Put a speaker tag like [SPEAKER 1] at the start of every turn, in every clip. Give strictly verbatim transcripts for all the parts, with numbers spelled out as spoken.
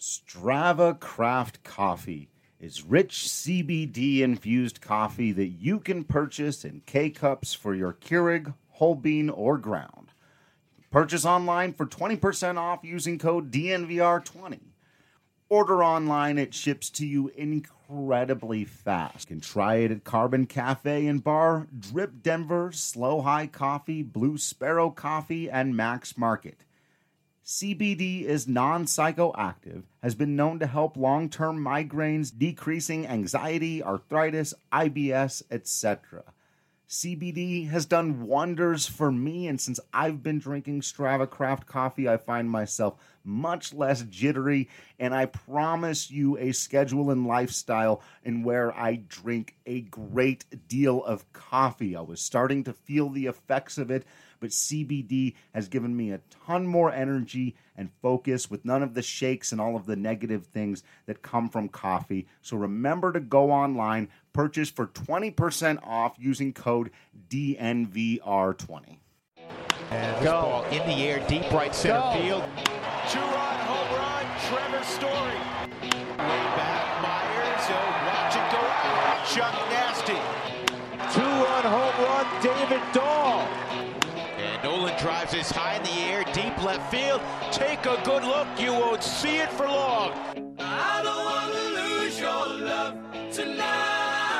[SPEAKER 1] Strava Craft Coffee is rich C B D-infused coffee that you can purchase in K-Cups for your Keurig, whole bean, or ground. Purchase online for twenty percent off using code D N V R twenty. Order online, it ships to you incredibly fast. You can try it at Carbon Cafe and Bar, Drip Denver, Slow High Coffee, Blue Sparrow Coffee, and Max Market. C B D is non-psychoactive, has been known to help long-term migraines, decreasing anxiety, arthritis, I B S, et cetera. C B D has done wonders for me, and since I've been drinking Strava Craft Coffee, I find myself much less jittery, and I promise you a schedule and lifestyle in where I drink a great deal of coffee. I was starting to feel the effects of it, but C B D has given me a ton more energy and focus with none of the shakes and all of the negative things that come from coffee. So remember to go online, purchase for twenty percent off using code D N V R twenty.
[SPEAKER 2] And this ball in the air, deep right center
[SPEAKER 3] Go.
[SPEAKER 2] field.
[SPEAKER 3] Two-run home run, Trevor Story.
[SPEAKER 2] Way back, Myers. Oh, watch it go out. Chuck Nasty.
[SPEAKER 3] Two-run home run, David Dahl.
[SPEAKER 2] And Nolan drives this high in the air, deep left field. Take a good look. You won't see it for long.
[SPEAKER 4] I don't want to lose your love tonight.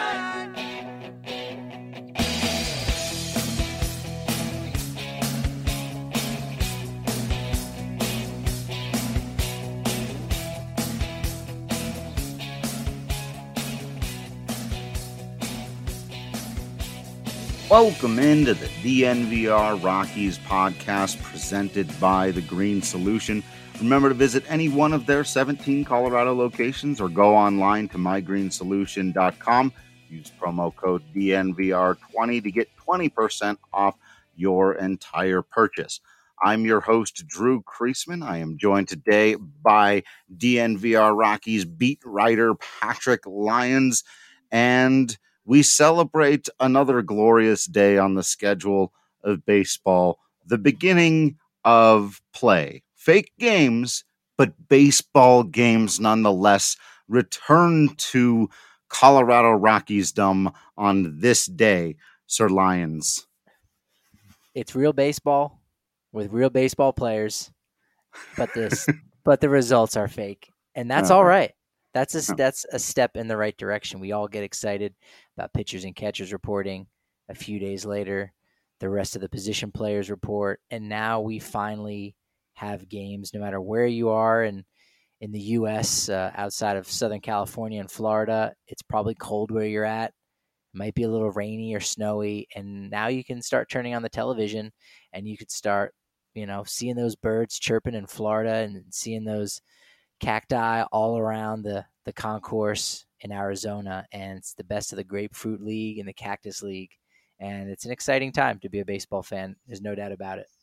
[SPEAKER 1] Welcome into the D N V R Rockies podcast presented by The Green Solution. Remember to visit any one of their seventeen Colorado locations or go online to my green solution dot com. Use promo code D N V R twenty to get twenty percent off your entire purchase. I'm your host, Drew Kreisman. I am joined today by D N V R Rockies beat writer Patrick Lyons, and we celebrate another glorious day on the schedule of baseball, the beginning of play. Fake games, but baseball games nonetheless return to Colorado Rockiesdom on this day, Sir Lyons.
[SPEAKER 5] It's real baseball with real baseball players, but this, but the results are fake, and that's all right. That's a, that's a step in the right direction. We all get excited about pitchers and catchers reporting. A few days later, the rest of the position players report, and now we finally have games no matter where you are. And in the U S, uh, outside of Southern California and Florida, it's probably cold where you're at. It might be a little rainy or snowy, and now you can start turning on the television, and you could start, you know, seeing those birds chirping in Florida and seeing those cacti all around the, the concourse in Arizona. And it's the best of the Grapefruit League and the Cactus League. And it's an exciting time to be a baseball fan. There's no doubt about it.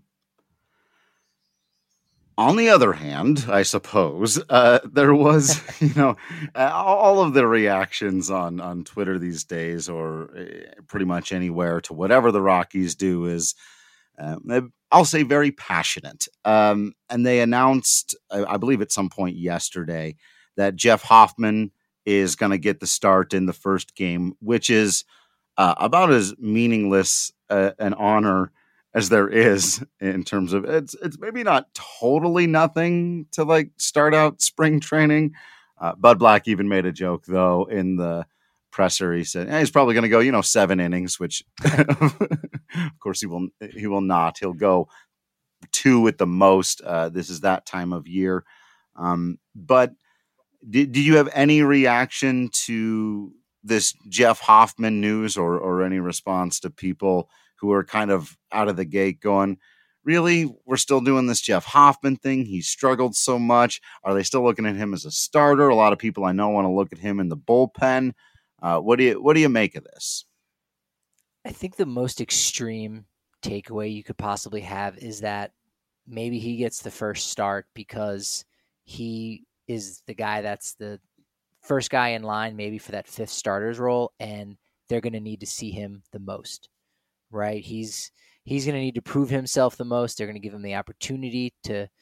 [SPEAKER 1] On the other hand, I suppose, uh, there was, you know, all of the reactions on, on Twitter these days, or pretty much anywhere, to whatever the Rockies do is, um, I'll say, very passionate. Um, and they announced, I, I believe at some point yesterday, that Jeff Hoffman is going to get the start in the first game, which is uh, about as meaningless uh, an honor as there is in terms of it's, it's maybe not totally nothing to like start out spring training. Uh, Bud Black even made a joke though in the presser. He said eh, he's probably going to go, you know, seven innings, which of course he will, he will not. He'll go two at the most. Uh, this is that time of year. Um, but did, did you have any reaction to this Jeff Hoffman news, or, or any response to people who are kind of out of the gate going, really, we're still doing this Jeff Hoffman thing? He struggled so much. Are they still looking at him as a starter? A lot of people I know want to look at him in the bullpen. Uh, what do you, what do you make of this?
[SPEAKER 5] I think the most extreme takeaway you could possibly have is that maybe he gets the first start because he is the guy that's the first guy in line, maybe for that fifth starter's role, and they're going to need to see him the most, right? He's he's going to need to prove himself the most. They're going to give him the opportunity to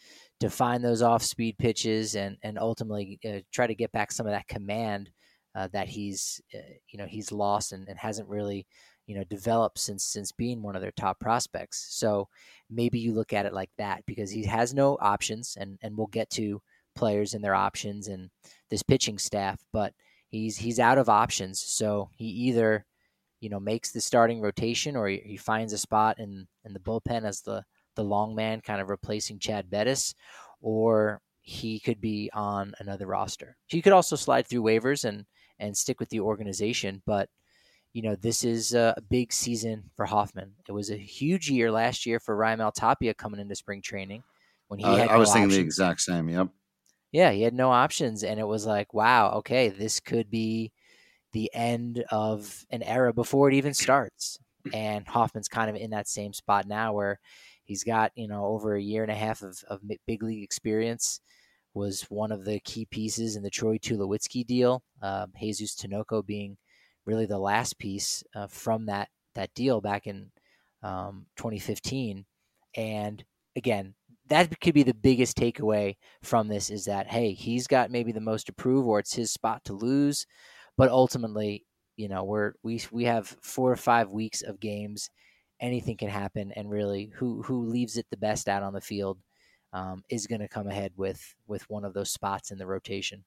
[SPEAKER 5] to find those off-speed pitches and and ultimately uh, try to get back some of that command uh, that he's uh, you know he's lost and, and hasn't really you know developed since since being one of their top prospects. So maybe you look at it like that, because he has no options, and and we'll get to players and their options and this pitching staff, but he's he's out of options. So he either you know makes the starting rotation, or he, he finds a spot in in the bullpen as the the long man, kind of replacing Chad Bettis, or he could be on another roster. He could also slide through waivers and and stick with the organization, but you know, this is a big season for Hoffman. It was a huge year last year for Raimel Tapia coming into spring training when he
[SPEAKER 6] Uh,
[SPEAKER 5] had
[SPEAKER 6] I
[SPEAKER 5] no
[SPEAKER 6] was thinking
[SPEAKER 5] options.
[SPEAKER 6] the exact same. Yep.
[SPEAKER 5] Yeah, he had no options, and it was like, wow, okay, this could be the end of an era before it even starts. And Hoffman's kind of in that same spot now, where he's got you know over a year and a half of, of big league experience. Was one of the key pieces in the Troy Tulowitzki deal. Uh, Jesus Tinoco being really the last piece uh, from that that deal back in um, twenty fifteen. And again, that could be the biggest takeaway from this, is that, hey, he's got maybe the most to prove, or it's his spot to lose. But ultimately, you know, we're, we we have four or five weeks of games. Anything can happen, and really, who who leaves it the best out on the field um, is going to come ahead with with one of those spots in the rotation.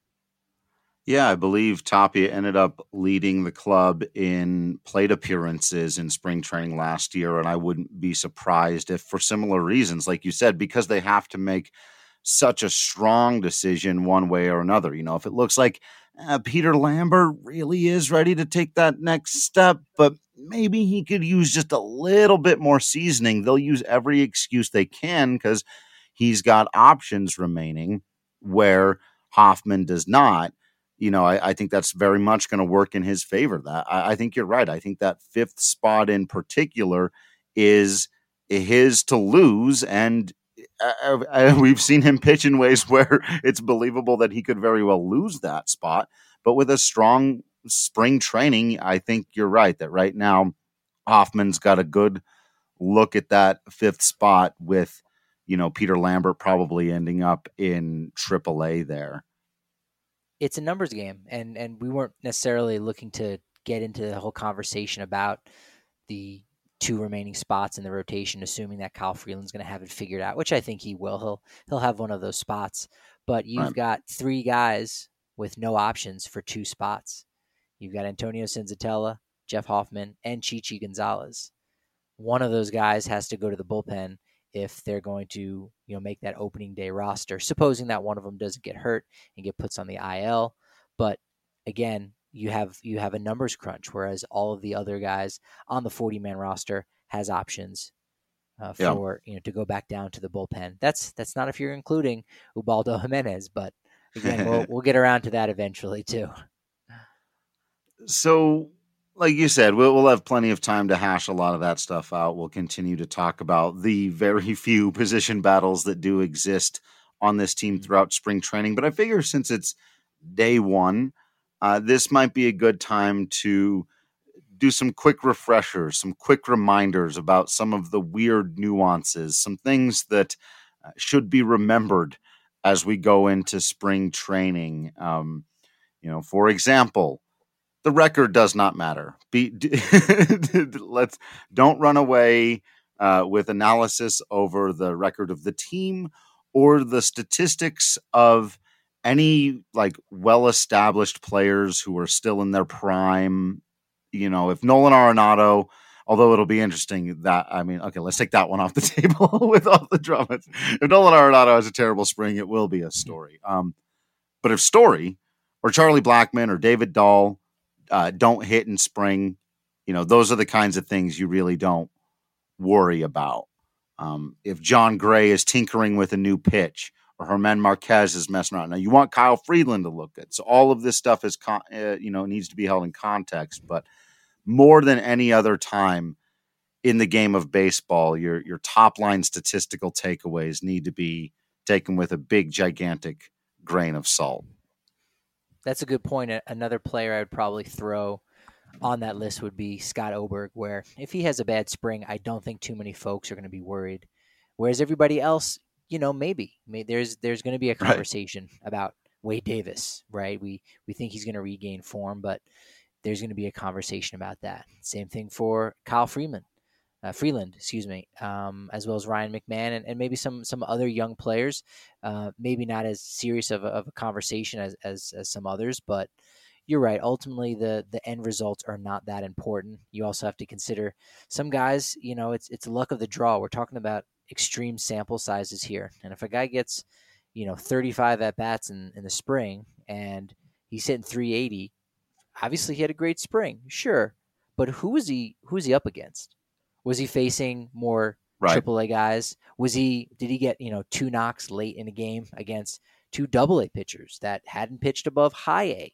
[SPEAKER 6] Yeah, I believe Tapia ended up leading the club in plate appearances in spring training last year, and I wouldn't be surprised if, for similar reasons, like you said, because they have to make such a strong decision one way or another. You know, if it looks like uh, Peter Lambert really is ready to take that next step, but maybe he could use just a little bit more seasoning, they'll use every excuse they can because he's got options remaining where Hoffman does not. You know, I, I think that's very much going to work in his favor. That I, I think you're right. I think that fifth spot in particular is his to lose, and uh, uh, we've seen him pitch in ways where it's believable that he could very well lose that spot. But with a strong spring training, I think you're right that right now Hoffman's got a good look at that fifth spot with, you know, Peter Lambert probably ending up in triple A there.
[SPEAKER 5] It's a numbers game, and and we weren't necessarily looking to get into the whole conversation about the two remaining spots in the rotation, assuming that Kyle Freeland's going to have it figured out, which I think he will. He'll he'll have one of those spots, but you've
[SPEAKER 6] Right.
[SPEAKER 5] got three guys with no options for two spots. You've got Antonio Senzatella, Jeff Hoffman, and Chichi Gonzalez. One of those guys has to go to the bullpen if they're going to, you know, make that opening day roster, supposing that one of them doesn't get hurt and get puts on the I L. But again, you have you have a numbers crunch, whereas all of the other guys on the forty-man roster has options uh,
[SPEAKER 6] Yeah.
[SPEAKER 5] for you know to go back down to the bullpen. That's that's not if you're including Ubaldo Jimenez, but again, we'll we'll get around to that eventually too.
[SPEAKER 6] So, like you said, we'll, we'll have plenty of time to hash a lot of that stuff out. We'll continue to talk about the very few position battles that do exist on this team throughout spring training. But I figure since it's day one, uh, this might be a good time to do some quick refreshers, some quick reminders about some of the weird nuances, some things that uh, should be remembered as we go into spring training. Um, you know, for example, the record does not matter. Be, let's don't run away uh, with analysis over the record of the team or the statistics of any like well-established players who are still in their prime. You know, if Nolan Arenado, although it'll be interesting that, I mean, okay, let's take that one off the table with all the dramas. If Nolan Arenado has a terrible spring, it will be a story. Um, but if Story or Charlie Blackmon or David Dahl uh, don't hit in spring, you know, those are the kinds of things you really don't worry about. Um, if John Gray is tinkering with a new pitch or Germán Marquez is messing around. Now, you want Kyle Freeland to look good. So all of this stuff is, con- uh, you know, needs to be held in context. But more than any other time in the game of baseball, your your top line statistical takeaways need to be taken with a big, gigantic grain of salt.
[SPEAKER 5] That's a good point. Another player I would probably throw on that list would be Scott Oberg, where if he has a bad spring, I don't think too many folks are going to be worried. Whereas everybody else, you know, maybe, maybe there's there's going to be a conversation right. about Wade Davis, right? We we think he's going to regain form, but there's going to be a conversation about that. Same thing for Kyle Freeman, uh, Freeland, excuse me, um, as well as Ryan McMahon and, and maybe some some other young players. Uh, maybe not as serious of a, of a conversation as, as as some others, but you're right. Ultimately, the the end results are not that important. You also have to consider some guys. You know, it's it's luck of the draw. We're talking about extreme sample sizes here, and if a guy gets, you know, thirty-five at bats in, in the spring and he's hitting three eighty, obviously he had a great spring, sure, but who was he? Who was he up against? Was he facing more right. triple A guys? Was he? Did he get, you know, two knocks late in a game against two double A pitchers that hadn't pitched above high A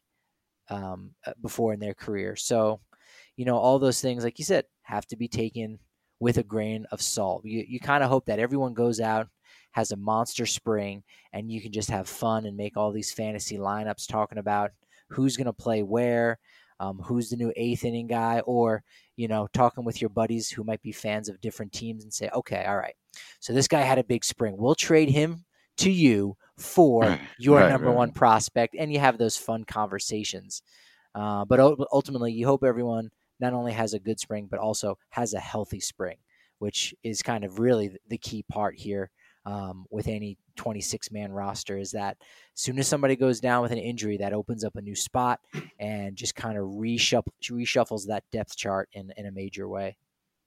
[SPEAKER 5] um, before in their career? So, you know, all those things, like you said, have to be taken with a grain of salt. You you kind of hope that everyone goes out, has a monster spring, and you can just have fun and make all these fantasy lineups talking about who's going to play where, um, who's the new eighth inning guy, or, you know, talking with your buddies who might be fans of different teams and say, okay, all right, so this guy had a big spring. We'll trade him to you for your right, number right. one prospect, and you have those fun conversations. Uh, but ultimately, you hope everyone not only has a good spring, but also has a healthy spring, which is kind of really the key part here um, with any twenty-six man roster, is that as soon as somebody goes down with an injury, that opens up a new spot and just kind of reshuffle, reshuffles that depth chart in, in a major way.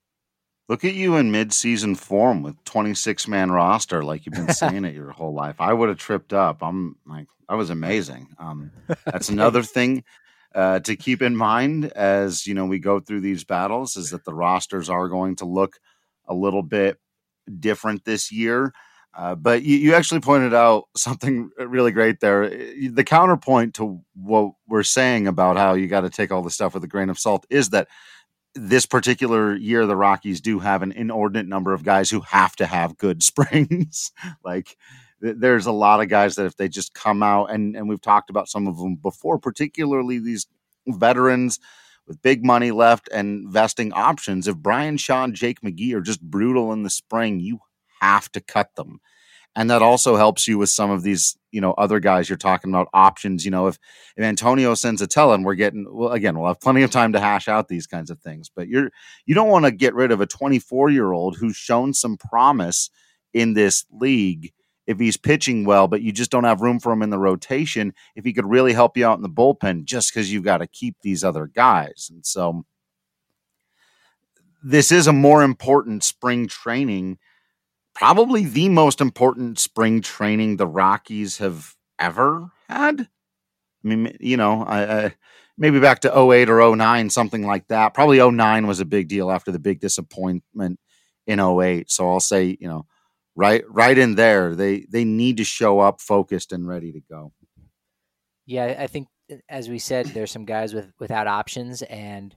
[SPEAKER 6] Look at you in mid-season form with twenty-six man roster, like you've been saying it your whole life. I would have tripped up. I'm like, that was amazing. Um, that's another thing uh, to keep in mind as, you know, we go through these battles, is that the rosters are going to look a little bit different this year. Uh, but you, you actually pointed out something really great there. The counterpoint to what we're saying about how you got to take all this stuff with a grain of salt is that this particular year, the Rockies do have an inordinate number of guys who have to have good springs. Like th- there's a lot of guys that if they just come out, and, and we've talked about some of them before, particularly these veterans with big money left and vesting options. If Brian Shaw and Jake McGee are just brutal in the spring, you have to cut them. And that also helps you with some of these, you know, other guys you're talking about, options. You know, if, if Antonio Senzatella, and we're getting, well, again, we'll have plenty of time to hash out these kinds of things, but you're, you don't want to get rid of a twenty-four year old who's shown some promise in this league if he's pitching well, but you just don't have room for him in the rotation, if he could really help you out in the bullpen, just because you've got to keep these other guys. And so this is a more important spring training, probably the most important spring training the Rockies have ever had. I mean, you know, I, I, maybe back to oh eight or oh nine, something like that. Probably oh nine was a big deal after the big disappointment in oh eight. So I'll say, you know, right, right in there, they, they need to show up focused and ready to go.
[SPEAKER 5] Yeah, I think, as we said, there's some guys with, without options, and,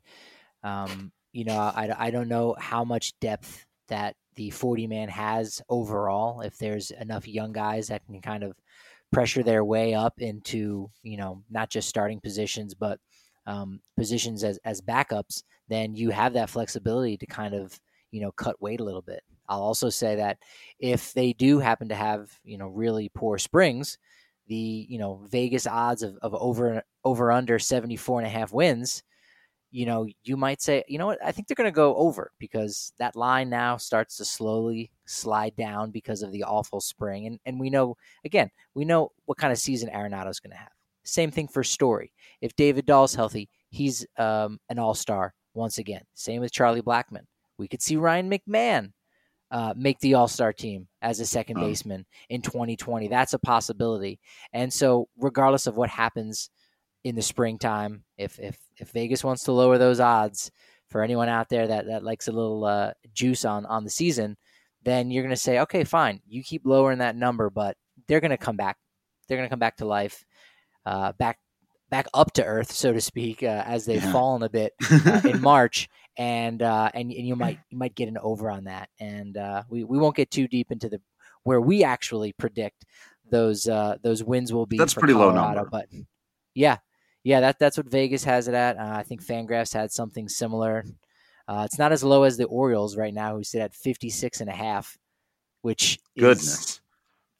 [SPEAKER 5] um, you know, I, I don't know how much depth that the forty man has overall, if there's enough young guys that can kind of pressure their way up into, you know, not just starting positions, but um, positions as, as backups, then you have that flexibility to kind of, you know, cut weight a little bit. I'll also say that if they do happen to have, you know, really poor springs, the, you know, Vegas odds of, of over, over under seventy-four and a half wins, you know, you might say, you know what, I think they're going to go over, because that line now starts to slowly slide down because of the awful spring. And and we know, again, we know what kind of season Arenado's going to have. Same thing for Story. If David Dahl's healthy, he's um, an all-star once again. Same with Charlie Blackmon. We could see Ryan McMahon uh, make the all-star team as a second oh. baseman in twenty twenty. That's a possibility. And so regardless of what happens in the springtime, if if if Vegas wants to lower those odds for anyone out there that, that likes a little uh, juice on, on the season, then you're going to say, okay, fine, you keep lowering that number, but they're going to come back. They're going to come back to life, uh, back back up to earth, so to speak, uh, as they've yeah. fallen a bit uh, in March, and uh, and and you might you might get an over on that, and uh, we we won't get too deep into the where we actually predict those uh, those wins will be.
[SPEAKER 6] That's
[SPEAKER 5] for
[SPEAKER 6] pretty
[SPEAKER 5] Colorado,
[SPEAKER 6] low number,
[SPEAKER 5] but yeah. Yeah, that that's what Vegas has it at. Uh, I think Fangraphs had something similar. Uh, it's not as low as the Orioles right now, who sit at fifty-six and a half, which
[SPEAKER 6] Goodness.
[SPEAKER 5] is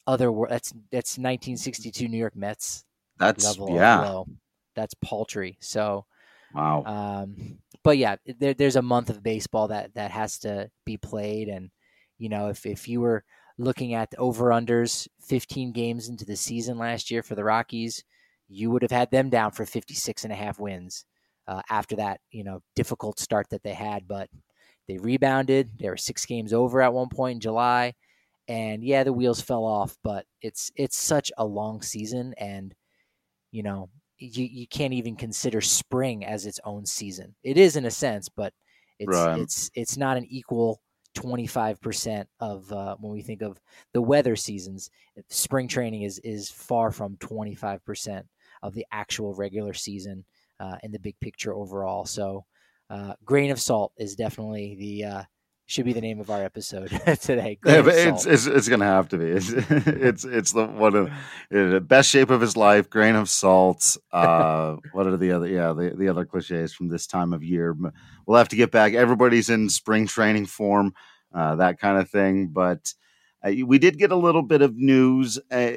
[SPEAKER 5] other. That's that's nineteen sixty-two New York Mets
[SPEAKER 6] That's
[SPEAKER 5] level
[SPEAKER 6] yeah.
[SPEAKER 5] of low. That's paltry. So,
[SPEAKER 6] Wow.
[SPEAKER 5] um, but yeah, there, there's a month of baseball that that has to be played, and you know, if if you were looking at the over-unders fifteen games into the season last year for the Rockies, you would have had them down for fifty-six and a half wins uh, after that, you know, difficult start that they had. But they rebounded. They were six games over at one point in July. And yeah, the wheels fell off, but it's it's such a long season, and you know, you, you can't even consider spring as its own season. It is in a sense, but it's
[SPEAKER 6] Right.
[SPEAKER 5] it's it's not an equal twenty-five percent of uh, when we think of the weather seasons. Spring training is is far from twenty-five percent of the actual regular season uh, in the big picture overall. So, uh, grain of salt is definitely the uh, should be the name of our episode today. Grain
[SPEAKER 6] Yeah,
[SPEAKER 5] of
[SPEAKER 6] but it's,
[SPEAKER 5] salt.
[SPEAKER 6] it's it's gonna have to be. It's it's, it's the one of the best shape of his life. Grain of salt. Uh, what are the other? Yeah, the, the other cliches from this time of year. We'll have to get back. Everybody's in spring training form, uh, that kind of thing. But uh, we did get a little bit of news, uh,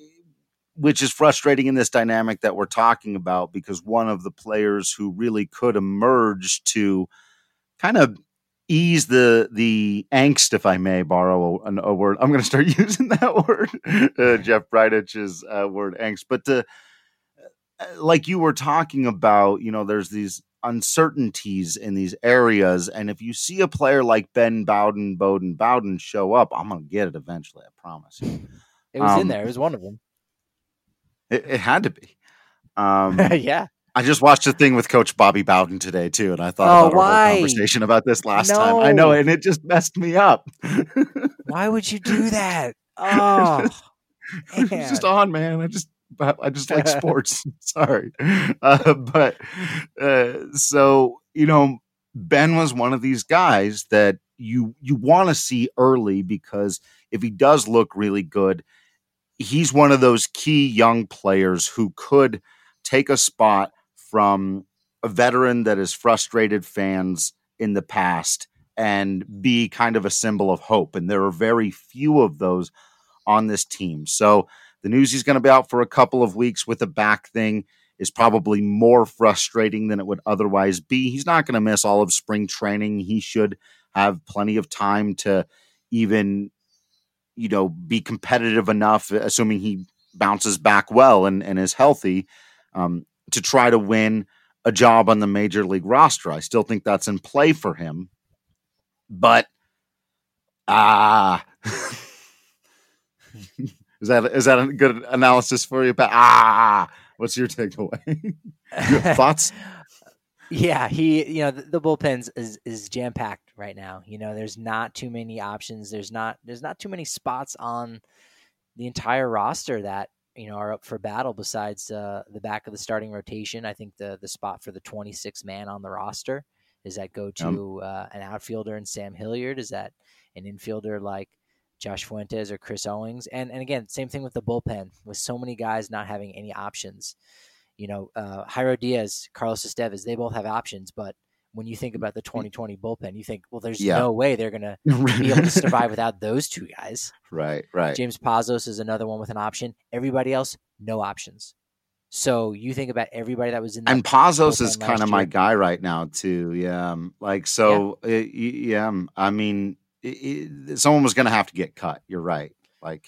[SPEAKER 6] which is frustrating in this dynamic that we're talking about, because one of the players who really could emerge to kind of ease the the angst, if I may borrow a, a word. I'm going to start using that word, uh, Jeff Breidich's uh, word, angst. But to, uh, like you were talking about, you know, there's these uncertainties in these areas, and if you see a player like Ben Bowden, Bowden, Bowden show up, I'm going to get it eventually. I promise you.
[SPEAKER 5] It was
[SPEAKER 6] Um,
[SPEAKER 5] in there. It was one of them.
[SPEAKER 6] It, it had to be. Um,
[SPEAKER 5] Yeah.
[SPEAKER 6] I just watched a thing with Coach Bobby Bowden today too, and I thought
[SPEAKER 5] Oh,
[SPEAKER 6] about our
[SPEAKER 5] why?
[SPEAKER 6] whole conversation about this last time. I know,
[SPEAKER 5] No.
[SPEAKER 6] and it just messed me up.
[SPEAKER 5] Why would you do that? Oh,
[SPEAKER 6] It's just
[SPEAKER 5] man.
[SPEAKER 6] on, man. I just, I just like sports. Sorry, uh, but uh, so you know, Ben was one of these guys that you you want to see early, because if he does look really good, he's one of those key young players who could take a spot from a veteran that has frustrated fans in the past and be kind of a symbol of hope. And there are very few of those on this team. So the news he's going to be out for a couple of weeks with a back thing is probably more frustrating than it would otherwise be. He's not going to miss all of spring training. He should have plenty of time to even, you know, be competitive enough, assuming he bounces back well and, and is healthy, um, to try to win a job on the major league roster. I still think that's in play for him, but ah, is that is that a good analysis for you? But ah, what's your takeaway? Your thoughts?
[SPEAKER 5] Yeah, he, you know, the, the bullpen is is jam packed right now. You know, there's not too many options. There's not there's not too many spots on the entire roster that, you know, are up for battle besides uh, the back of the starting rotation. I think the the spot for the twenty-six man on the roster, does that go to uh, an outfielder in Sam Hilliard? Is that an infielder like Josh Fuentes or Chris Owings? And and again, same thing with the bullpen, with so many guys not having any options. You know, uh, Jairo Diaz, Carlos Estevez, they both have options, but when you think about the twenty twenty bullpen, you think, well, there's
[SPEAKER 6] Yeah.
[SPEAKER 5] no way they're going to be able to survive without those two guys.
[SPEAKER 6] Right, right.
[SPEAKER 5] James Pazos is another one with an option. Everybody else, no options. So you think about everybody that was in that
[SPEAKER 6] And Pazos
[SPEAKER 5] bullpen
[SPEAKER 6] is kind
[SPEAKER 5] last
[SPEAKER 6] of my
[SPEAKER 5] year.
[SPEAKER 6] guy right now too. Yeah, um, like so. uh, y- Yeah, um, I mean, it, it, someone was going to have to get cut. You're right. Like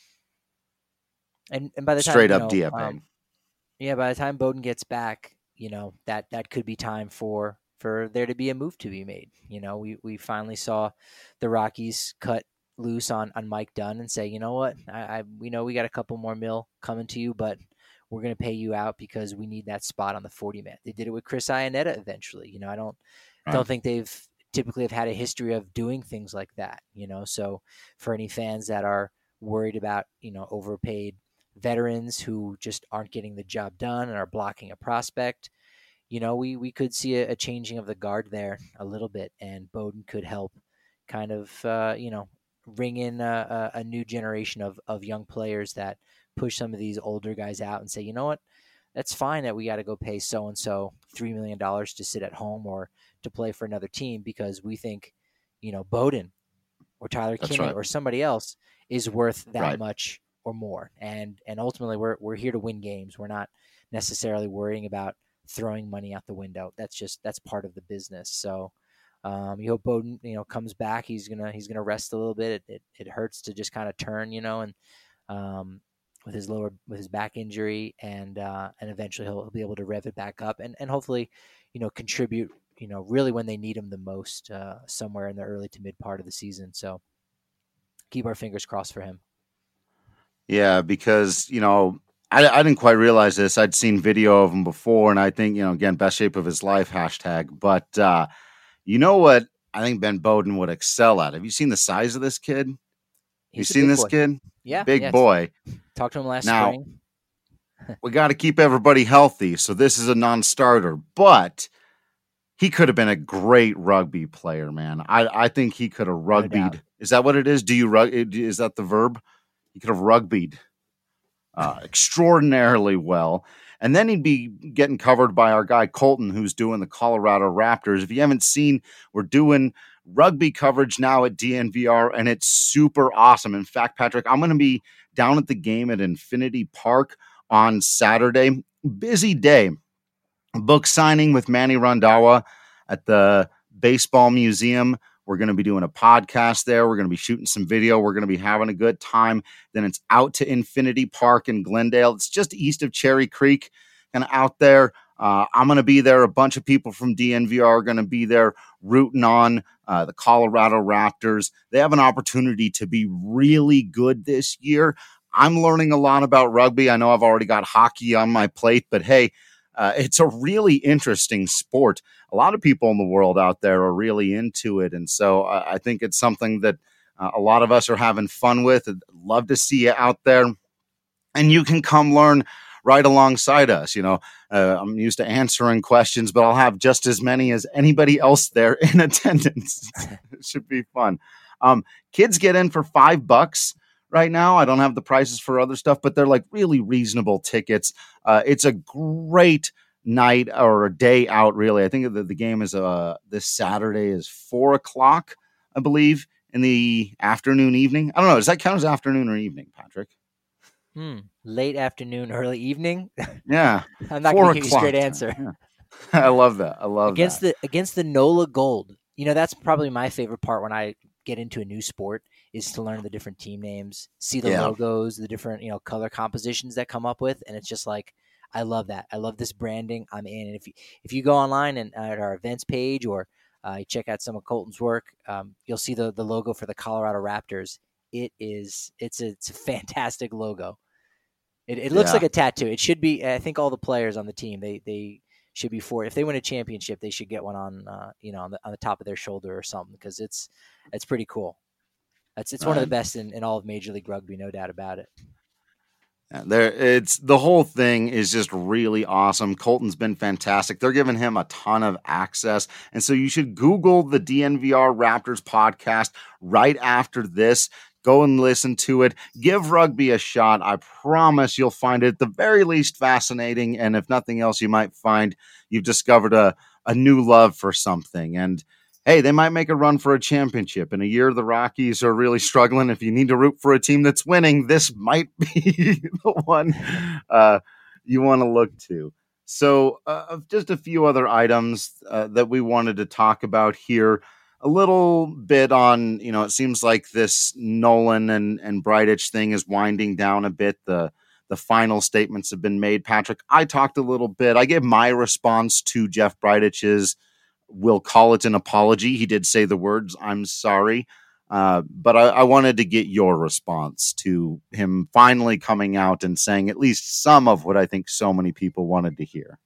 [SPEAKER 5] And and by the time,
[SPEAKER 6] straight
[SPEAKER 5] you
[SPEAKER 6] up
[SPEAKER 5] know,
[SPEAKER 6] D F A.
[SPEAKER 5] um, yeah, by the time Bowden gets back, you know, that that could be time for for there to be a move to be made. You know, we we finally saw the Rockies cut loose on on Mike Dunn and say, you know what, I, I we know we got a couple more mil coming to you, but we're going to pay you out because we need that spot on the forty man. They did it with Chris Iannetta eventually. You know, I don't
[SPEAKER 6] Right.
[SPEAKER 5] don't think they've typically have had a history of doing things like that. You know, so for any fans that are worried about, you know, overpaid veterans who just aren't getting the job done and are blocking a prospect, you know, we we could see a, a changing of the guard there a little bit, and Bowden could help kind of, uh, you know, ring in a, a, a new generation of, of young players that push some of these older guys out and say, you know what, that's fine that we got to go pay so-and-so three million dollars to sit at home or to play for another team because we think, you know, Bowden or Tyler
[SPEAKER 6] That's
[SPEAKER 5] Kinney
[SPEAKER 6] right.
[SPEAKER 5] or somebody else is worth that
[SPEAKER 6] Right.
[SPEAKER 5] much or more. And and ultimately, we're we're here to win games. We're not necessarily worrying about throwing money out the window. That's just that's part of the business. So um, you hope Bowden, you know, comes back. He's gonna he's gonna rest a little bit. It it, it hurts to just kind of turn, you know, and um, with his lower with his back injury, and uh, and eventually he'll, he'll be able to rev it back up, and and hopefully, you know, contribute, you know, really when they need him the most, uh, somewhere in the early to mid part of the season. So keep our fingers crossed for him.
[SPEAKER 6] Yeah, because, you know, I, I didn't quite realize this. I'd seen video of him before, and I think, you know, again, best shape of his life, hashtag. But uh, you know what I think Ben Bowden would excel at? Have you seen the size of this kid?
[SPEAKER 5] He's
[SPEAKER 6] you seen this
[SPEAKER 5] boy.
[SPEAKER 6] kid?
[SPEAKER 5] Yeah.
[SPEAKER 6] Big
[SPEAKER 5] yeah,
[SPEAKER 6] boy.
[SPEAKER 5] Talked to him last
[SPEAKER 6] now,
[SPEAKER 5] spring.
[SPEAKER 6] We got to keep everybody healthy, so this is a non-starter. But he could have been a great rugby player, man. I, I think he could have rugbyed.
[SPEAKER 5] No
[SPEAKER 6] is that what it is? Do you rug? Is that the verb? He could have rugbyed uh, extraordinarily well. And then he'd be getting covered by our guy Colton, who's doing the Colorado Raptors. If you haven't seen, we're doing rugby coverage now at D N V R, and it's super awesome. In fact, Patrick, I'm going to be down at the game at Infinity Park on Saturday. Busy day. Book signing with Manny Randhawa at the Baseball Museum. We're going to be doing a podcast there. We're going to be shooting some video. We're going to be having a good time. Then it's out to Infinity Park in Glendale. It's just east of Cherry Creek, kind of out there. Uh, I'm going to be there. A bunch of people from D N V R are going to be there rooting on uh, the Colorado Raptors. They have an opportunity to be really good this year. I'm learning a lot about rugby. I know I've already got hockey on my plate, but hey, Uh, it's a really interesting sport. A lot of people in the world out there are really into it. And so uh, I think it's something that uh, a lot of us are having fun with. I'd love to see you out there. And you can come learn right alongside us. You know, uh, I'm used to answering questions, but I'll have just as many as anybody else there in attendance. It should be fun. Um, kids get in for five bucks. Right now, I don't have the prices for other stuff, but they're like really reasonable tickets. Uh, it's a great night or a day out, really. I think the, the game is uh, this Saturday is four o'clock, I believe, in the afternoon, evening. I don't know. Does that count as afternoon or evening, Patrick?
[SPEAKER 5] Hmm. Late afternoon, early evening.
[SPEAKER 6] Yeah,
[SPEAKER 5] I'm not going to give you a straight answer.
[SPEAKER 6] Yeah. I love that. I love
[SPEAKER 5] against
[SPEAKER 6] that.
[SPEAKER 5] the against the NOLA Gold. You know, that's probably my favorite part when I get into a new sport, is to learn the different team names, see the yeah. logos, the different, you know, color compositions that come up with. And it's just like, I love that. I love this branding. I'm in. And if you, if you go online and uh, at our events page, or uh, you check out some of Colton's work, um, you'll see the, the logo for the Colorado Raptors. It is, it's a, it's a fantastic logo. It, it looks yeah. like a tattoo. It should be, I think all the players on the team, they, they should be for, if they win a championship, they should get one on, uh, you know, on the, on the top of their shoulder or something, because it's, it's pretty cool. It's it's right. one of the best in, in all of Major League Rugby, no doubt about it.
[SPEAKER 6] Yeah, there, it's the whole thing is just really awesome. Colton's been fantastic. They're giving him a ton of access, and so you should Google the D N V R Raptors podcast right after this. Go and listen to it. Give rugby a shot. I promise you'll find it at the very least fascinating, and if nothing else, you might find you've discovered a a new love for something. And hey, they might make a run for a championship. In a year, the Rockies are really struggling. If you need to root for a team that's winning, this might be the one uh, you want to look to. So uh, just a few other items uh, that we wanted to talk about here. A little bit on, you know, it seems like this Nolan and, and Bridich thing is winding down a bit. The the final statements have been made. Patrick, I talked a little bit. I gave my response to Jeff Bridich's, we'll call it an apology. He did say the words, I'm sorry. Uh, but I, I wanted to get your response to him finally coming out and saying at least some of what I think so many people wanted to hear.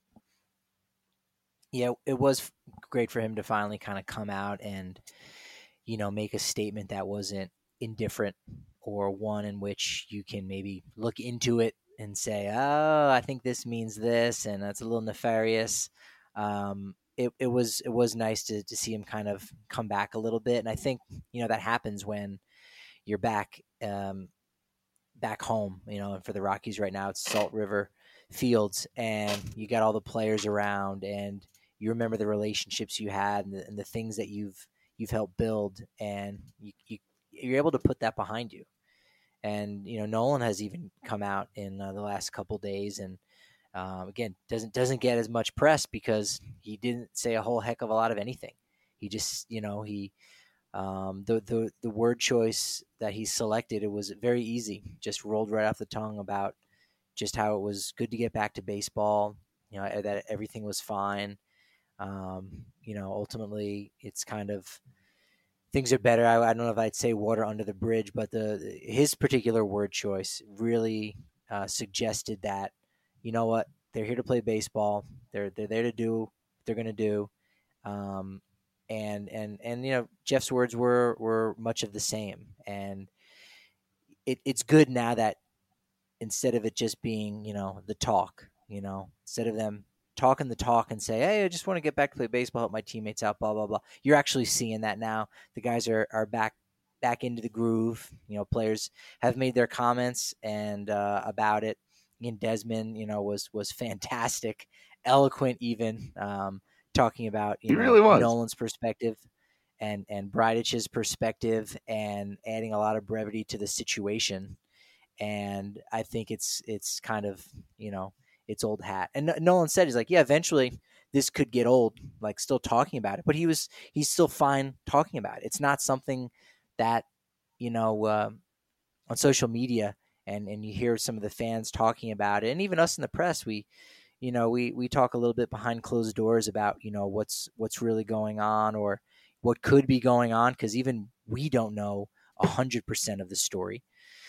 [SPEAKER 5] Yeah, it was great for him to finally kind of come out and, you know, make a statement that wasn't indifferent, or one in which you can maybe look into it and say, oh, I think this means this, and that's a little nefarious. Um, It, it was it was nice to to see him kind of come back a little bit, and I think, you know, that happens when you're back um, back home. You know, and for the Rockies right now, it's Salt River Fields, and you got all the players around, and you remember the relationships you had and the, and the things that you've you've helped build, and you, you you're able to put that behind you. And, you know, Nolan has even come out in uh, the last couple days and, um, again, doesn't doesn't get as much press because he didn't say a whole heck of a lot of anything. He just, you know, he um, the, the the word choice that he selected, it was very easy, just rolled right off the tongue about just how it was good to get back to baseball, you know, that everything was fine. Um, you know, ultimately, it's kind of things are better. I, I don't know if I'd say water under the bridge, but the his particular word choice really uh, suggested that, you know what, they're here to play baseball. They're they're there to do what they're going to do. Um, and and and you know, Jeff's words were were much of the same. And it, it's good now that instead of it just being, you know, the talk, you know, instead of them talking the talk and say, hey, I just want to get back to play baseball, help my teammates out, blah, blah, blah. You're actually seeing that now. The guys are, are back back into the groove. You know, players have made their comments and uh, about it. Ian Desmond, you know, was was fantastic, eloquent even, um, talking about, you
[SPEAKER 6] he
[SPEAKER 5] know,
[SPEAKER 6] really was.
[SPEAKER 5] Nolan's perspective and, and Bridich's perspective and adding a lot of brevity to the situation. And I think it's it's kind of, you know, it's old hat. And Nolan said, he's like, yeah, eventually this could get old, like still talking about it. But he was he's still fine talking about it. It's not something that, you know, uh, on social media and, and you hear some of the fans talking about it. And even us in the press, we, you know, we, we talk a little bit behind closed doors about, you know, what's what's really going on or what could be going on, because even we don't know one hundred percent of the story.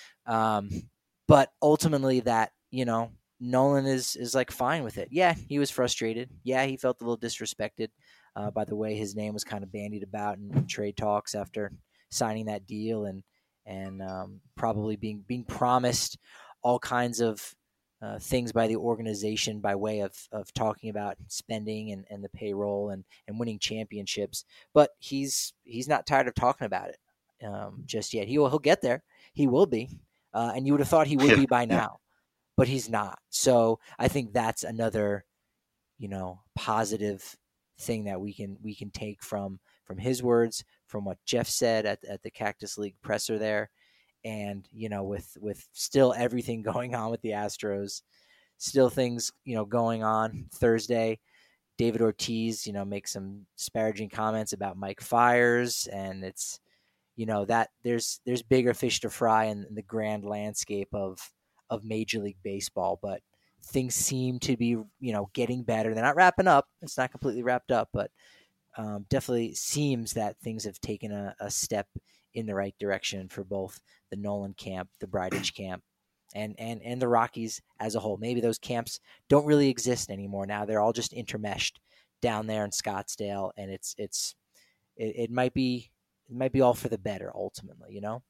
[SPEAKER 5] Um, but ultimately that, you know, Nolan is, is like fine with it. Yeah, he was frustrated. Yeah, he felt a little disrespected uh, by the way his name was kind of bandied about in, in trade talks after signing that deal and and um, probably being being promised all kinds of uh, things by the organization by way of, of talking about spending and, and the payroll and, and winning championships. But he's he's not tired of talking about it um, just yet. He will he'll get there. He will be. Uh, and you would have thought he would
[SPEAKER 6] Yeah,
[SPEAKER 5] be by now,
[SPEAKER 6] yeah.
[SPEAKER 5] but he's not. So I think that's another, you know, positive thing that we can we can take from from his words, from what Jeff said at at the Cactus League presser there, and you know, with with still everything going on with the Astros, still things, you know, going on Thursday. David Ortiz, you know, makes some disparaging comments about Mike Fiers, and it's, you know, that there's there's bigger fish to fry in, in the grand landscape of of Major League Baseball, but things seem to be, you know, getting better. They're not wrapping up. It's not completely wrapped up, but um, definitely seems that things have taken a, a step in the right direction for both the Nolan camp, the Bridich camp, and and and the Rockies as a whole. Maybe those camps don't really exist anymore now. They're all just intermeshed down there in Scottsdale, and it's it's it, it might be. It might be all for the better ultimately, you know?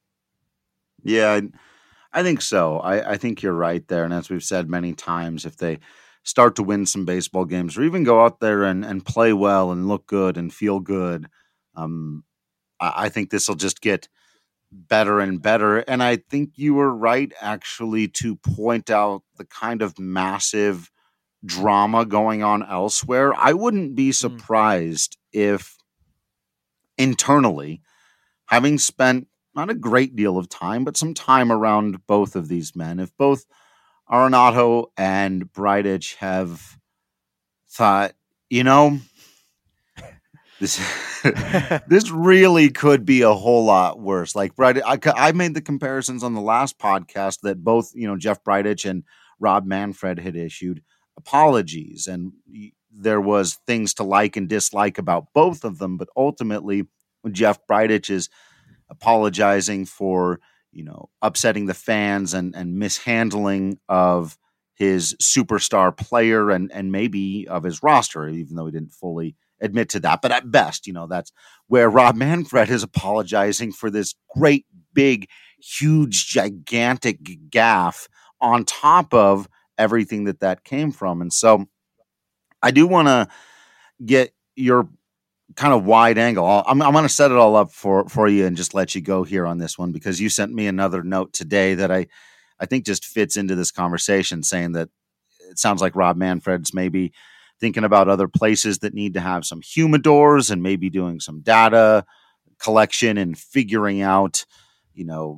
[SPEAKER 6] Yeah, I think so. I, I think you're right there. And as we've said many times, if they start to win some baseball games or even go out there and, and play well and look good and feel good, um, I, I think this will just get better and better. And I think you were right, actually, to point out the kind of massive drama going on elsewhere. I wouldn't be surprised mm. if internally, having spent not a great deal of time, but some time around both of these men, if both Arenado and Bridich have thought, you know, this this really could be a whole lot worse. Like Bridich, I, I made the comparisons on the last podcast that both, you know, Jeff Bridich and Rob Manfred had issued apologies, and there was things to like and dislike about both of them, but ultimately, when Jeff Bridich is apologizing for, you know, upsetting the fans and, and mishandling of his superstar player and, and maybe of his roster, even though he didn't fully admit to that. But at best, you know, that's where Rob Manfred is apologizing for this great, big, huge, gigantic gaffe on top of everything that that came from. And so I do want to get your kind of wide angle. I'm, I'm going to set it all up for, for you and just let you go here on this one, because you sent me another note today that I, I think just fits into this conversation, saying that it sounds like Rob Manfred's maybe thinking about other places that need to have some humidors and maybe doing some data collection and figuring out, you know,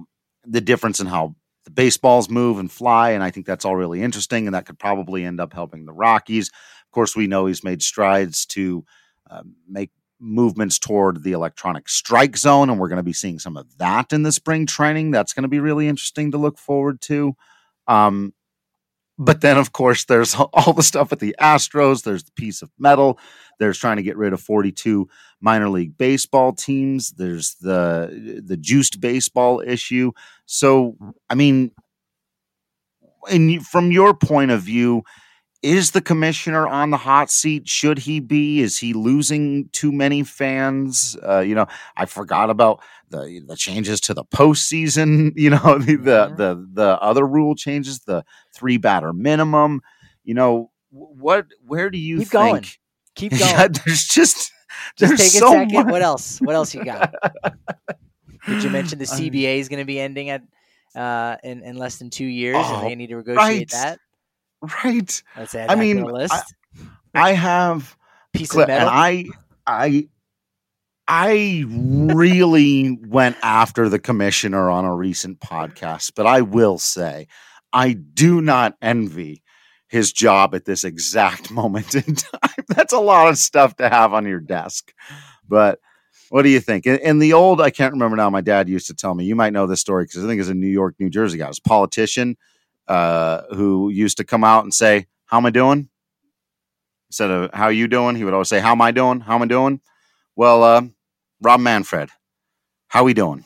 [SPEAKER 6] the difference in how the baseballs move and fly, and I think that's all really interesting, and that could probably end up helping the Rockies. Of course, we know he's made strides to uh, make movements toward the electronic strike zone, and we're going to be seeing some of that in the spring training. That's going to be really interesting to look forward to. Um, but then, of course, there's all the stuff with the Astros. There's the piece of metal. There's trying to get rid of forty-two minor league baseball teams. There's the the juiced baseball issue. So, I mean, in, from your point of view, is the commissioner on the hot seat? Should he be? Is he losing too many fans? Uh, you know, I forgot about the the changes to the postseason. You know, the the the, the other rule changes, the three batter minimum. You know, what? Where do you
[SPEAKER 5] Keep
[SPEAKER 6] think?
[SPEAKER 5] going. Keep going.
[SPEAKER 6] Yeah, there's just
[SPEAKER 5] Just
[SPEAKER 6] there's
[SPEAKER 5] take a
[SPEAKER 6] so
[SPEAKER 5] second.
[SPEAKER 6] much.
[SPEAKER 5] What else? What else you got? Did you mention the C B A is going to be ending at uh, in in less than two years,
[SPEAKER 6] Oh,
[SPEAKER 5] and they need to negotiate
[SPEAKER 6] right.
[SPEAKER 5] that?
[SPEAKER 6] Right.
[SPEAKER 5] Let's add
[SPEAKER 6] I
[SPEAKER 5] that
[SPEAKER 6] mean,
[SPEAKER 5] to the list.
[SPEAKER 6] I, I have
[SPEAKER 5] Piece
[SPEAKER 6] Cl-
[SPEAKER 5] of metal.
[SPEAKER 6] and I I I really went after the commissioner on a recent podcast, but I will say I do not envy his job at this exact moment in time. That's a lot of stuff to have on your desk. But what do you think? In, in the old, I can't remember now, my dad used to tell me, you might know this story because I think it's a New York, New Jersey guy. It was a politician uh, who used to come out and say, how am I doing? Instead of how you doing, he would always say, how am I doing? How am I doing? Well, uh, Rob Manfred, how we doing?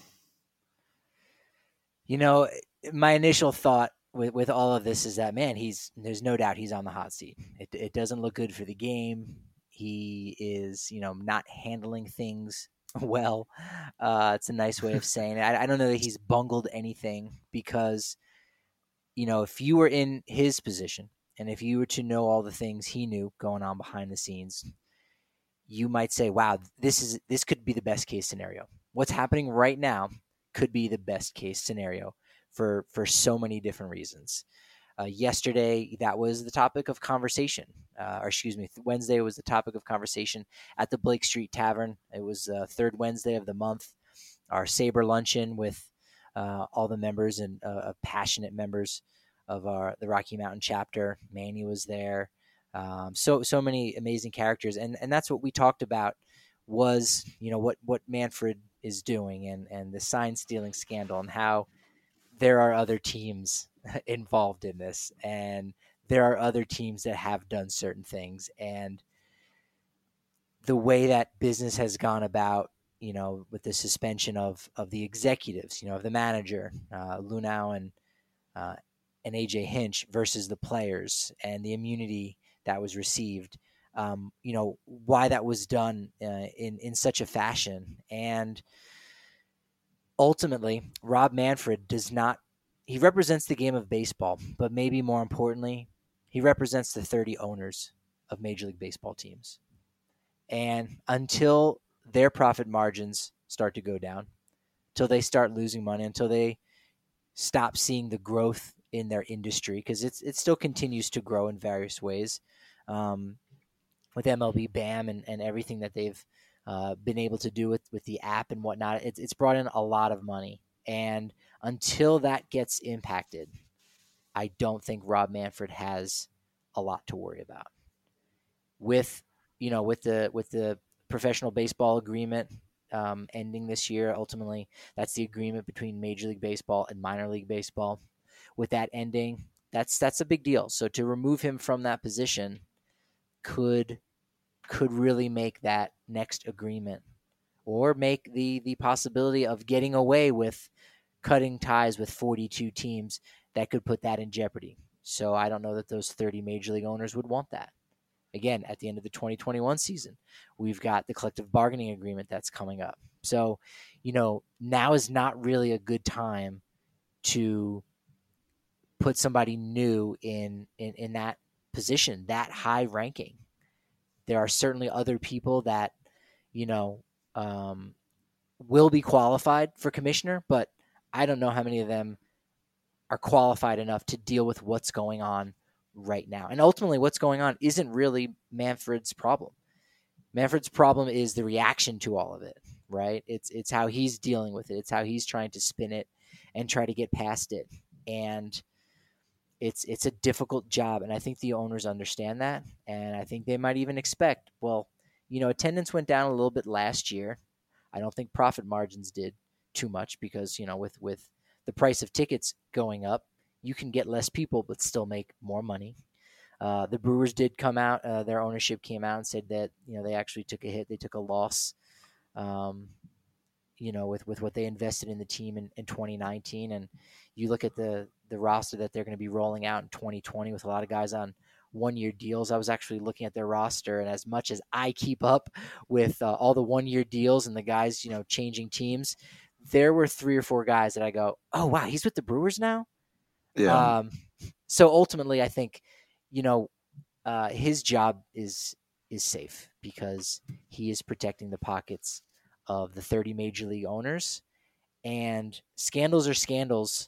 [SPEAKER 5] You know, my initial thought with, with all of this is that, man, he's there's no doubt he's on the hot seat. It, it doesn't look good for the game. He is, you know, not handling things well. Uh, it's a nice way of saying it. I, I don't know that he's bungled anything because, you know, if you were in his position and if you were to know all the things he knew going on behind the scenes, you might say, wow, this is this could be the best case scenario. What's happening right now could be the best case scenario for, for so many different reasons. Uh, yesterday, that was the topic of conversation. Uh, or excuse me, Wednesday was the topic of conversation at the Blake Street Tavern. It was uh, third Wednesday of the month. Our Sabre luncheon with uh, all the members and uh, passionate members of our the Rocky Mountain chapter. Manny was there. Um, so so many amazing characters, and and that's what we talked about was, you know, what what Manfred is doing and and the sign stealing scandal and how there are other teams involved in this, and there are other teams that have done certain things, and the way that business has gone about, you know, with the suspension of of the executives, you know, of the manager, uh, Lunau and uh, and A J Hinch versus the players and the immunity that was received, um, you know, why that was done uh, in, in such a fashion. And ultimately, Rob Manfred does not, he represents the game of baseball, but maybe more importantly, he represents the thirty owners of Major League Baseball teams. And until their profit margins start to go down, until they start losing money, until they stop seeing the growth in their industry, because it's it still continues to grow in various ways, um, with M L B B A M and, and everything that they've uh, been able to do with, with the app and whatnot. It's it's brought in a lot of money, and until that gets impacted, I don't think Rob Manfred has a lot to worry about. With you know with the with the professional baseball agreement um, ending this year, ultimately that's the agreement between Major League Baseball and minor league baseball. With that ending, that's that's a big deal. So to remove him from that position could could really make that next agreement, or make the the possibility of getting away with cutting ties with forty-two teams, that could put that in jeopardy. So I don't know that those thirty major league owners would want that. Again, at the end of the twenty twenty-one season, we've got the collective bargaining agreement that's coming up. So, you know, now is not really a good time to put somebody new in, in, in that position, that high ranking. There are certainly other people that, you know, um, will be qualified for commissioner, but I don't know how many of them are qualified enough to deal with what's going on right now. And ultimately what's going on isn't really Manfred's problem. Manfred's problem is the reaction to all of it, right? It's it's how he's dealing with it. It's how he's trying to spin it and try to get past it. And it's it's a difficult job, and I think the owners understand that, and I think they might even expect, well, you know, attendance went down a little bit last year. I don't think profit margins did too much because, you know, with, with the price of tickets going up, you can get less people but still make more money. Uh, the Brewers did come out, uh, their ownership came out and said that, you know, they actually took a hit, they took a loss, um, you know, with, with what they invested in the team in, in twenty nineteen. And you look at the, the roster that they're going to be rolling out in twenty twenty with a lot of guys on one-year deals. I was actually looking at their roster, and as much as I keep up with uh, all the one-year deals and the guys, you know, changing teams, there were three or four guys that I go, oh, wow, he's with the Brewers now?
[SPEAKER 6] Yeah.
[SPEAKER 5] Um, so ultimately, I think, you know, uh, his job is is safe because he is protecting the pockets of the thirty major league owners, and scandals are scandals.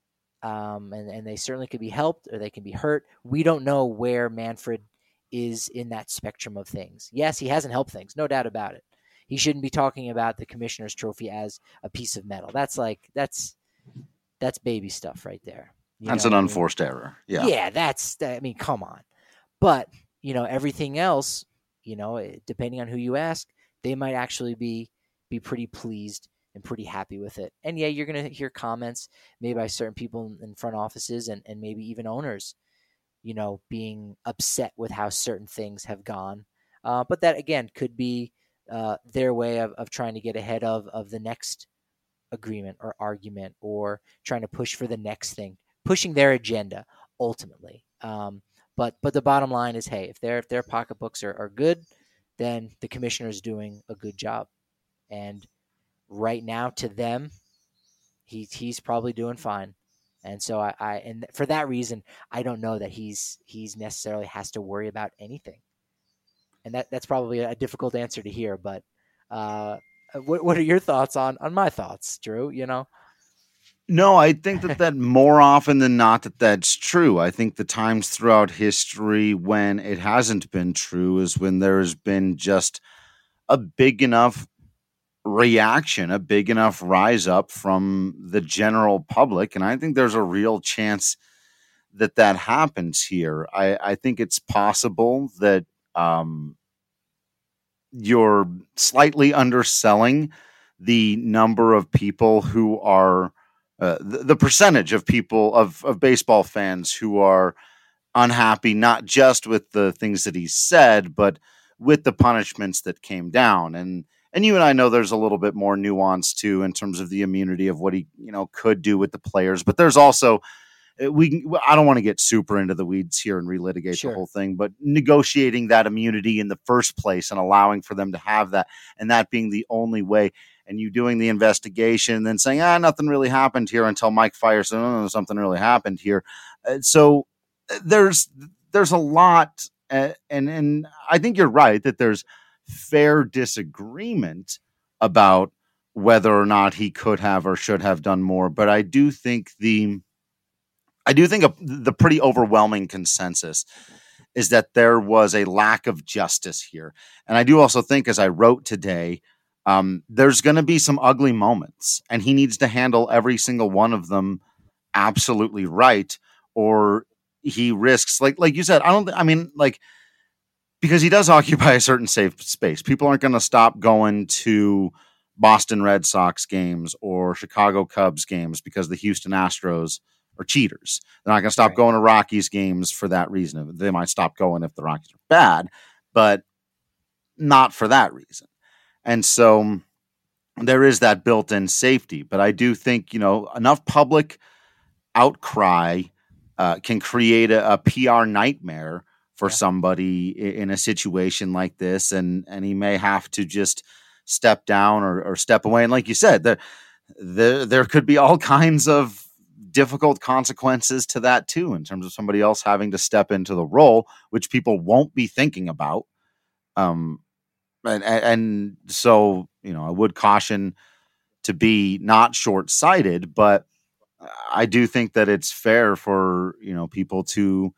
[SPEAKER 5] Um, and, and they certainly could be helped or they can be hurt. We don't know where Manfred is in that spectrum of things. Yes, he hasn't helped things, no doubt about it. He shouldn't be talking about the commissioner's trophy as a piece of metal. That's like, that's, that's baby stuff right there. You
[SPEAKER 6] That's
[SPEAKER 5] know
[SPEAKER 6] an
[SPEAKER 5] what I mean?
[SPEAKER 6] unforced error. Yeah.
[SPEAKER 5] Yeah, that's, I mean, come on. But, you know, everything else, you know, depending on who you ask, they might actually be, be pretty pleased and pretty happy with it. And yeah, you're going to hear comments maybe by certain people in front offices and, and maybe even owners, you know, being upset with how certain things have gone. Uh, but that, again, could be uh, their way of, of trying to get ahead of, of the next agreement or argument, or trying to push for the next thing, pushing their agenda ultimately. Um, but but the bottom line is, hey, if their if their pocketbooks are, are good, then the commissioner is doing a good job. And right now, to them, he's he's probably doing fine, and so I, I and for that reason, I don't know that he's he's necessarily has to worry about anything, and that that's probably a difficult answer to hear. But uh, what what are your thoughts on on my thoughts, Drew? You know,
[SPEAKER 6] No, I think that that more often than not that that's true. I think the times throughout history when it hasn't been true is when there has been just a big enough reaction, a big enough rise up from the general public. And I think there's a real chance that that happens here. I, I think it's possible that um, you're slightly underselling the number of people who are, uh, the, the percentage of people, of, of baseball fans who are unhappy, not just with the things that he said, but with the punishments that came down. And And you and I know there's a little bit more nuance too in terms of the immunity of what he, you know, could do with the players. But there's also, we I don't want to get super into the weeds here and relitigate
[SPEAKER 5] Sure.
[SPEAKER 6] the whole thing, but negotiating that immunity in the first place and allowing for them to have that, and that being the only way, and you doing the investigation and then saying, ah, nothing really happened here until Mike Fiers said, oh, something really happened here. Uh, so there's there's a lot, uh, and and I think you're right that there's fair disagreement about whether or not he could have or should have done more. But I do think the, I do think a, the pretty overwhelming consensus is that there was a lack of justice here. And I do also think, as I wrote today, um, there's going to be some ugly moments, and he needs to handle every single one of them absolutely right, or he risks, like, like you said, I don't, I mean, like, because he does occupy a certain safe space. People aren't going to stop going to Boston Red Sox games or Chicago Cubs games because the Houston Astros are cheaters. They're not going to stop
[SPEAKER 5] Right.
[SPEAKER 6] going to Rockies games for that reason. They might stop going if the Rockies are bad, but not for that reason. And so there is that built-in safety. But I do think, you know, enough public outcry uh, can create a, a P R nightmare for
[SPEAKER 5] Yeah.
[SPEAKER 6] somebody in a situation like this, and and he may have to just step down or, or step away. And like you said, there, there there could be all kinds of difficult consequences to that too, in terms of somebody else having to step into the role, which people won't be thinking about. Um, and and, and so you know, I would caution to be not short-sighted, but I do think that it's fair for, you know, people to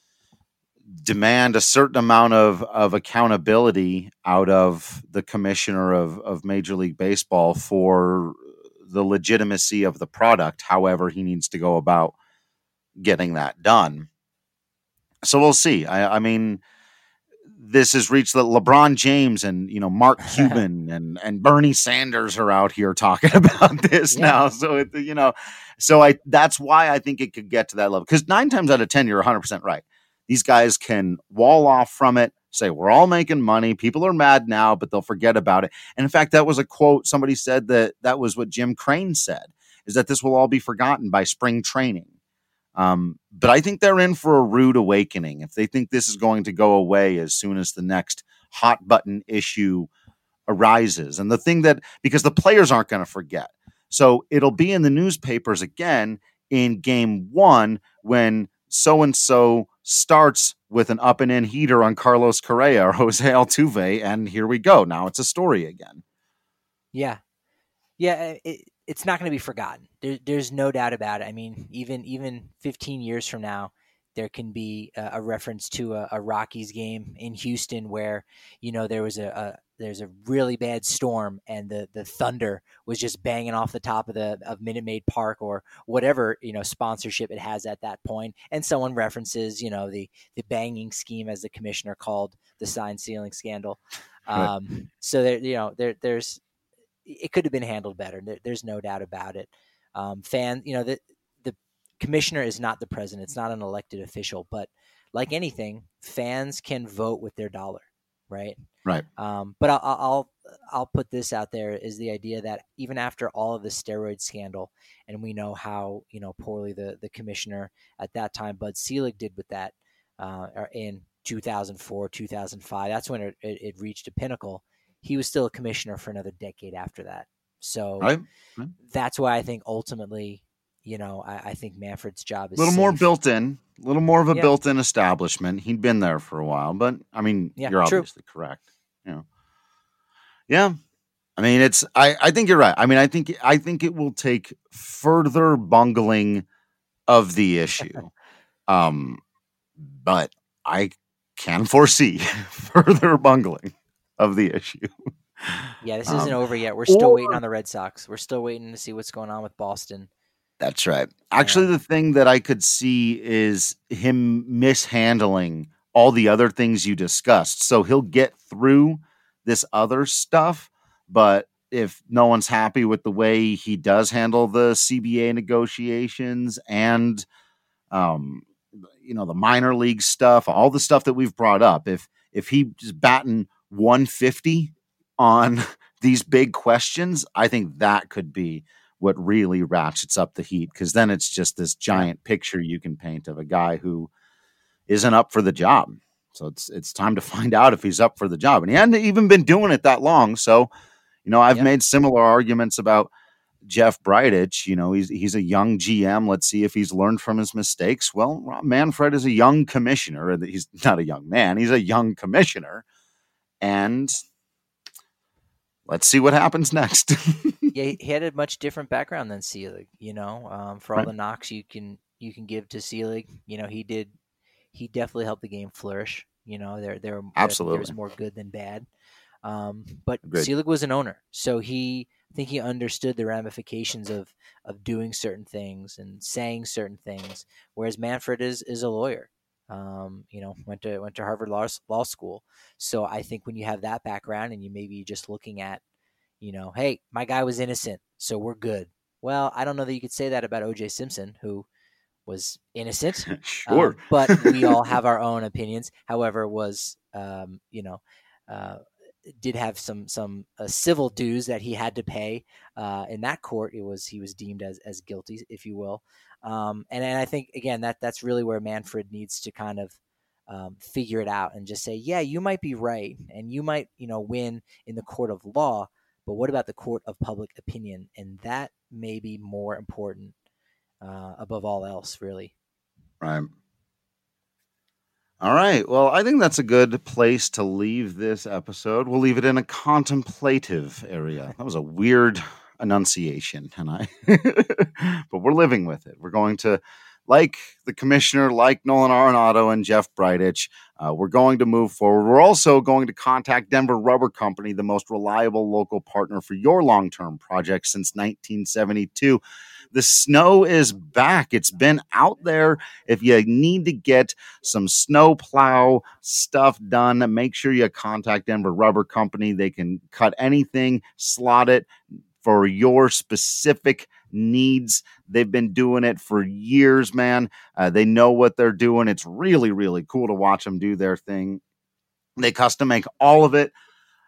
[SPEAKER 6] demand a certain amount of, of accountability out of the commissioner of, of Major League Baseball for the legitimacy of the product, however he needs to go about getting that done. So we'll see. I, I mean, this has reached the LeBron James and, you know, Mark Cuban and, and Bernie Sanders are out here talking about this yeah. now. So, it, you know, so I, that's why I think it could get to that level. Because nine times out of ten, you're one hundred percent right. These guys can wall off from it, say, we're all making money. People are mad now, but they'll forget about it. And in fact, that was a quote. Somebody said that that was what Jim Crane said, is that this will all be forgotten by spring training. Um, but I think they're in for a rude awakening if they think this is going to go away as soon as the next hot button issue arises. And the thing that, because the players aren't going to forget. So it'll be in the newspapers again in game one when so-and-so starts with an up and in heater on Carlos Correa or Jose Altuve. And here we go. Now it's a story again.
[SPEAKER 5] Yeah. Yeah. It, it's not going to be forgotten. There, there's no doubt about it. I mean, even, even fifteen years from now, there can be a, a reference to a, a Rockies game in Houston where, you know, there was a, a there's a really bad storm and the, the thunder was just banging off the top of the of Minute Maid Park or whatever, you know, sponsorship it has at that point. And someone references, you know, the, the banging scheme, as the commissioner called the sign stealing scandal.
[SPEAKER 6] Right.
[SPEAKER 5] Um, so there, you know, there, there's, it could have been handled better. There, there's no doubt about it. Um, fan, you know, the, the commissioner is not the president. It's not an elected official, but like anything, fans can vote with their dollar. Right.
[SPEAKER 6] Right.
[SPEAKER 5] Um, but I'll, I'll, I'll put this out there is the idea that even after all of the steroid scandal, and we know how, you know, poorly the, the commissioner at that time, Bud Selig, did with that, uh, in two thousand four, two thousand five, that's when it, it, it reached a pinnacle. He was still a commissioner for another decade after that. So
[SPEAKER 6] right. Right.
[SPEAKER 5] That's why I think ultimately, you know, I, I think Manfred's job is
[SPEAKER 6] a little
[SPEAKER 5] safe.
[SPEAKER 6] more built in, a little more of a
[SPEAKER 5] yeah.
[SPEAKER 6] built-in establishment. He'd been there for a while, but I mean,
[SPEAKER 5] yeah,
[SPEAKER 6] you're
[SPEAKER 5] true.
[SPEAKER 6] obviously correct. You know, yeah. I mean, it's. I, I think you're right. I mean, I think I think it will take further bungling of the issue, um, but I can foresee further bungling of the issue.
[SPEAKER 5] Yeah, this isn't
[SPEAKER 6] um,
[SPEAKER 5] over yet. We're still
[SPEAKER 6] or,
[SPEAKER 5] waiting on the Red Sox. We're still waiting to see what's going on with Boston.
[SPEAKER 6] That's right. Actually,
[SPEAKER 5] yeah.
[SPEAKER 6] the thing that I could see is him mishandling all the other things you discussed. So he'll get through this other stuff, but if no one's happy with the way he does handle the C B A negotiations and, um, you know, the minor league stuff, all the stuff that we've brought up, if if he just batting one fifty on these big questions, I think that could be what really ratchets up the heat, because then it's just this giant picture you can paint of a guy who isn't up for the job. So it's it's time to find out if he's up for the job. And he hadn't even been doing it that long. So, you know, I've
[SPEAKER 5] yep.
[SPEAKER 6] made similar arguments about Jeff Bridich. You know, he's he's a young G M. Let's see if he's learned from his mistakes. Well, Rob Manfred is a young commissioner. He's not a young man. He's a young commissioner. And let's see what happens next.
[SPEAKER 5] Yeah, he had a much different background than Selig, you know, um, for all
[SPEAKER 6] right.
[SPEAKER 5] the knocks you can you can give to Selig. You know, he did he definitely helped the game flourish. You know, there there,
[SPEAKER 6] Absolutely.
[SPEAKER 5] there was more good than bad. Um, but
[SPEAKER 6] Agreed.
[SPEAKER 5] Selig was an owner, so he I think he understood the ramifications of of doing certain things and saying certain things, whereas Manfred is is a lawyer. Um, you know, went to went to Harvard Law, Law School. So I think when you have that background and you maybe just looking at, you know, hey, my guy was innocent, so we're good. Well, I don't know that you could say that about O J Simpson, who was innocent.
[SPEAKER 6] Sure.
[SPEAKER 5] Um, but we all have our own opinions. However, was, um, you know, uh, did have some some uh, civil dues that he had to pay uh, in that court. It was he was deemed as as guilty, if you will. Um, and, and I think, again, that that's really where Manfred needs to kind of um, figure it out and just say, yeah, you might be right. And you might, you know, win in the court of law, but what about the court of public opinion? And that may be more important uh, above all else, really.
[SPEAKER 6] Right. All right. Well, I think that's a good place to leave this episode. We'll leave it in a contemplative area. That was a weird enunciation, and I, but we're living with it. We're going to like the commissioner, like Nolan Arenado and Jeff Bridich, uh, we're going to move forward. We're also going to contact Denver Rubber Company, the most reliable local partner for your long-term project since nineteen seventy-two. The snow is back. It's been out there. If you need to get some snow plow stuff done, make sure you contact Denver Rubber Company. They can cut anything, slot it for your specific needs. They've been doing it for years, man. Uh, they know what they're doing. It's really, really cool to watch them do their thing. They custom make all of it.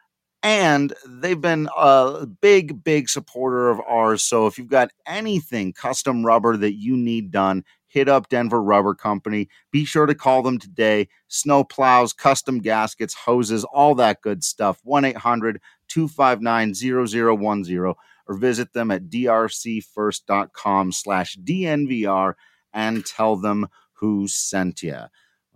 [SPEAKER 6] And they've been a big, big supporter of ours. So if you've got anything custom rubber that you need done, hit up Denver Rubber Company. Be sure to call them today. Snow plows, custom gaskets, hoses, all that good stuff. one eight hundred two five nine zero zero one zero or visit them at drcfirst.com slash DNVR and tell them who sent you.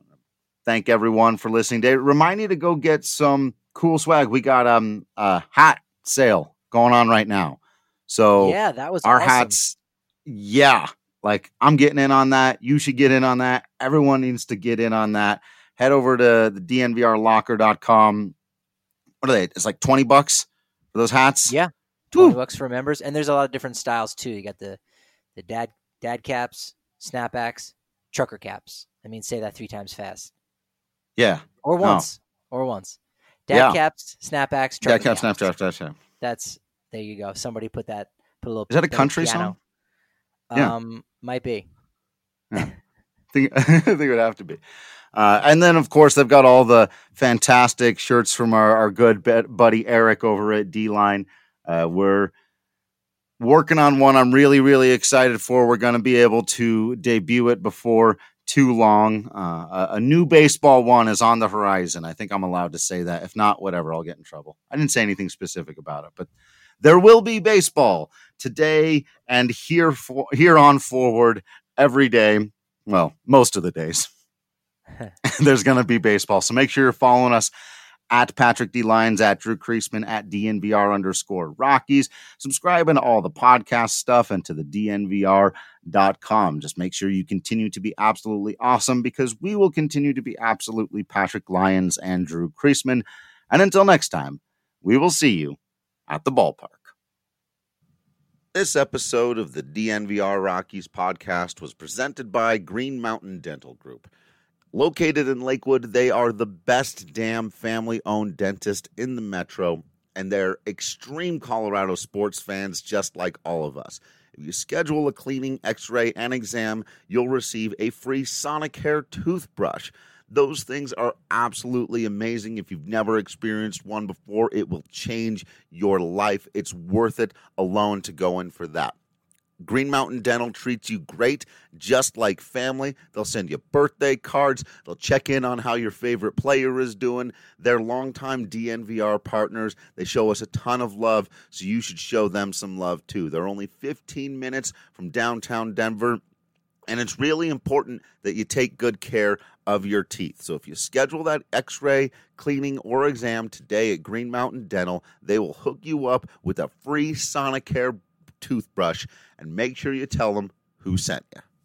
[SPEAKER 6] Thank everyone for listening today. Remind you to go get some cool swag. We got um a hat sale going on right now. So
[SPEAKER 5] yeah, that was
[SPEAKER 6] our
[SPEAKER 5] awesome.
[SPEAKER 6] hats. Yeah. Like I'm getting in on that. You should get in on that. Everyone needs to get in on that. Head over to the D N V R locker dot com. What are they? It's like twenty bucks for those hats.
[SPEAKER 5] Yeah. twenty
[SPEAKER 6] Woo.
[SPEAKER 5] bucks for members. And there's a lot of different styles too. You got the, the dad, dad caps, snapbacks, trucker caps. I mean, say that three times fast.
[SPEAKER 6] Yeah.
[SPEAKER 5] Or once. Or once. Dad
[SPEAKER 6] Yeah.
[SPEAKER 5] caps, snapbacks,
[SPEAKER 6] Yeah,
[SPEAKER 5] trucker
[SPEAKER 6] cap,
[SPEAKER 5] caps.
[SPEAKER 6] snap, snap, snap, snap.
[SPEAKER 5] That's, there you go. Somebody put that, put a little.
[SPEAKER 6] Is that a
[SPEAKER 5] little
[SPEAKER 6] country
[SPEAKER 5] piano.
[SPEAKER 6] song? Yeah.
[SPEAKER 5] Um, might be.
[SPEAKER 6] Yeah. I think, I think it would have to be. Uh, and then, of course, they've got all the fantastic shirts from our, our good buddy Eric over at D-Line. Uh, we're working on one I'm really, really excited for. We're going to be able to debut it before too long. Uh, a, a new baseball one is on the horizon. I think I'm allowed to say that. If not, whatever, I'll get in trouble. I didn't say anything specific about it, but there will be baseball today and here for, here on forward every day. Well, most of the days. There's going to be baseball. So make sure you're following us at Patrick D. Lyons, at Drew Creasman, at D N V R underscore Rockies. Subscribing to all the podcast stuff and to the D N V R dot com. Just make sure you continue to be absolutely awesome because we will continue to be absolutely Patrick Lyons and Drew Creasman. And until next time, we will see you at the ballpark. This episode of the D N V R Rockies podcast was presented by Green Mountain Dental Group. Located in Lakewood, they are the best damn family-owned dentist in the metro, and they're extreme Colorado sports fans just like all of us. If you schedule a cleaning, x-ray, and exam, you'll receive a free Sonicare toothbrush. Those things are absolutely amazing. If you've never experienced one before, it will change your life. It's worth it alone to go in for that. Green Mountain Dental treats you great, just like family. They'll send you birthday cards. They'll check in on how your favorite player is doing. They're longtime D N V R partners. They show us a ton of love, so you should show them some love too. They're only fifteen minutes from downtown Denver, and it's really important that you take good care of your teeth. So if you schedule that x-ray, cleaning, or exam today at Green Mountain Dental, they will hook you up with a free Sonicare toothbrush, and make sure you tell them who sent you.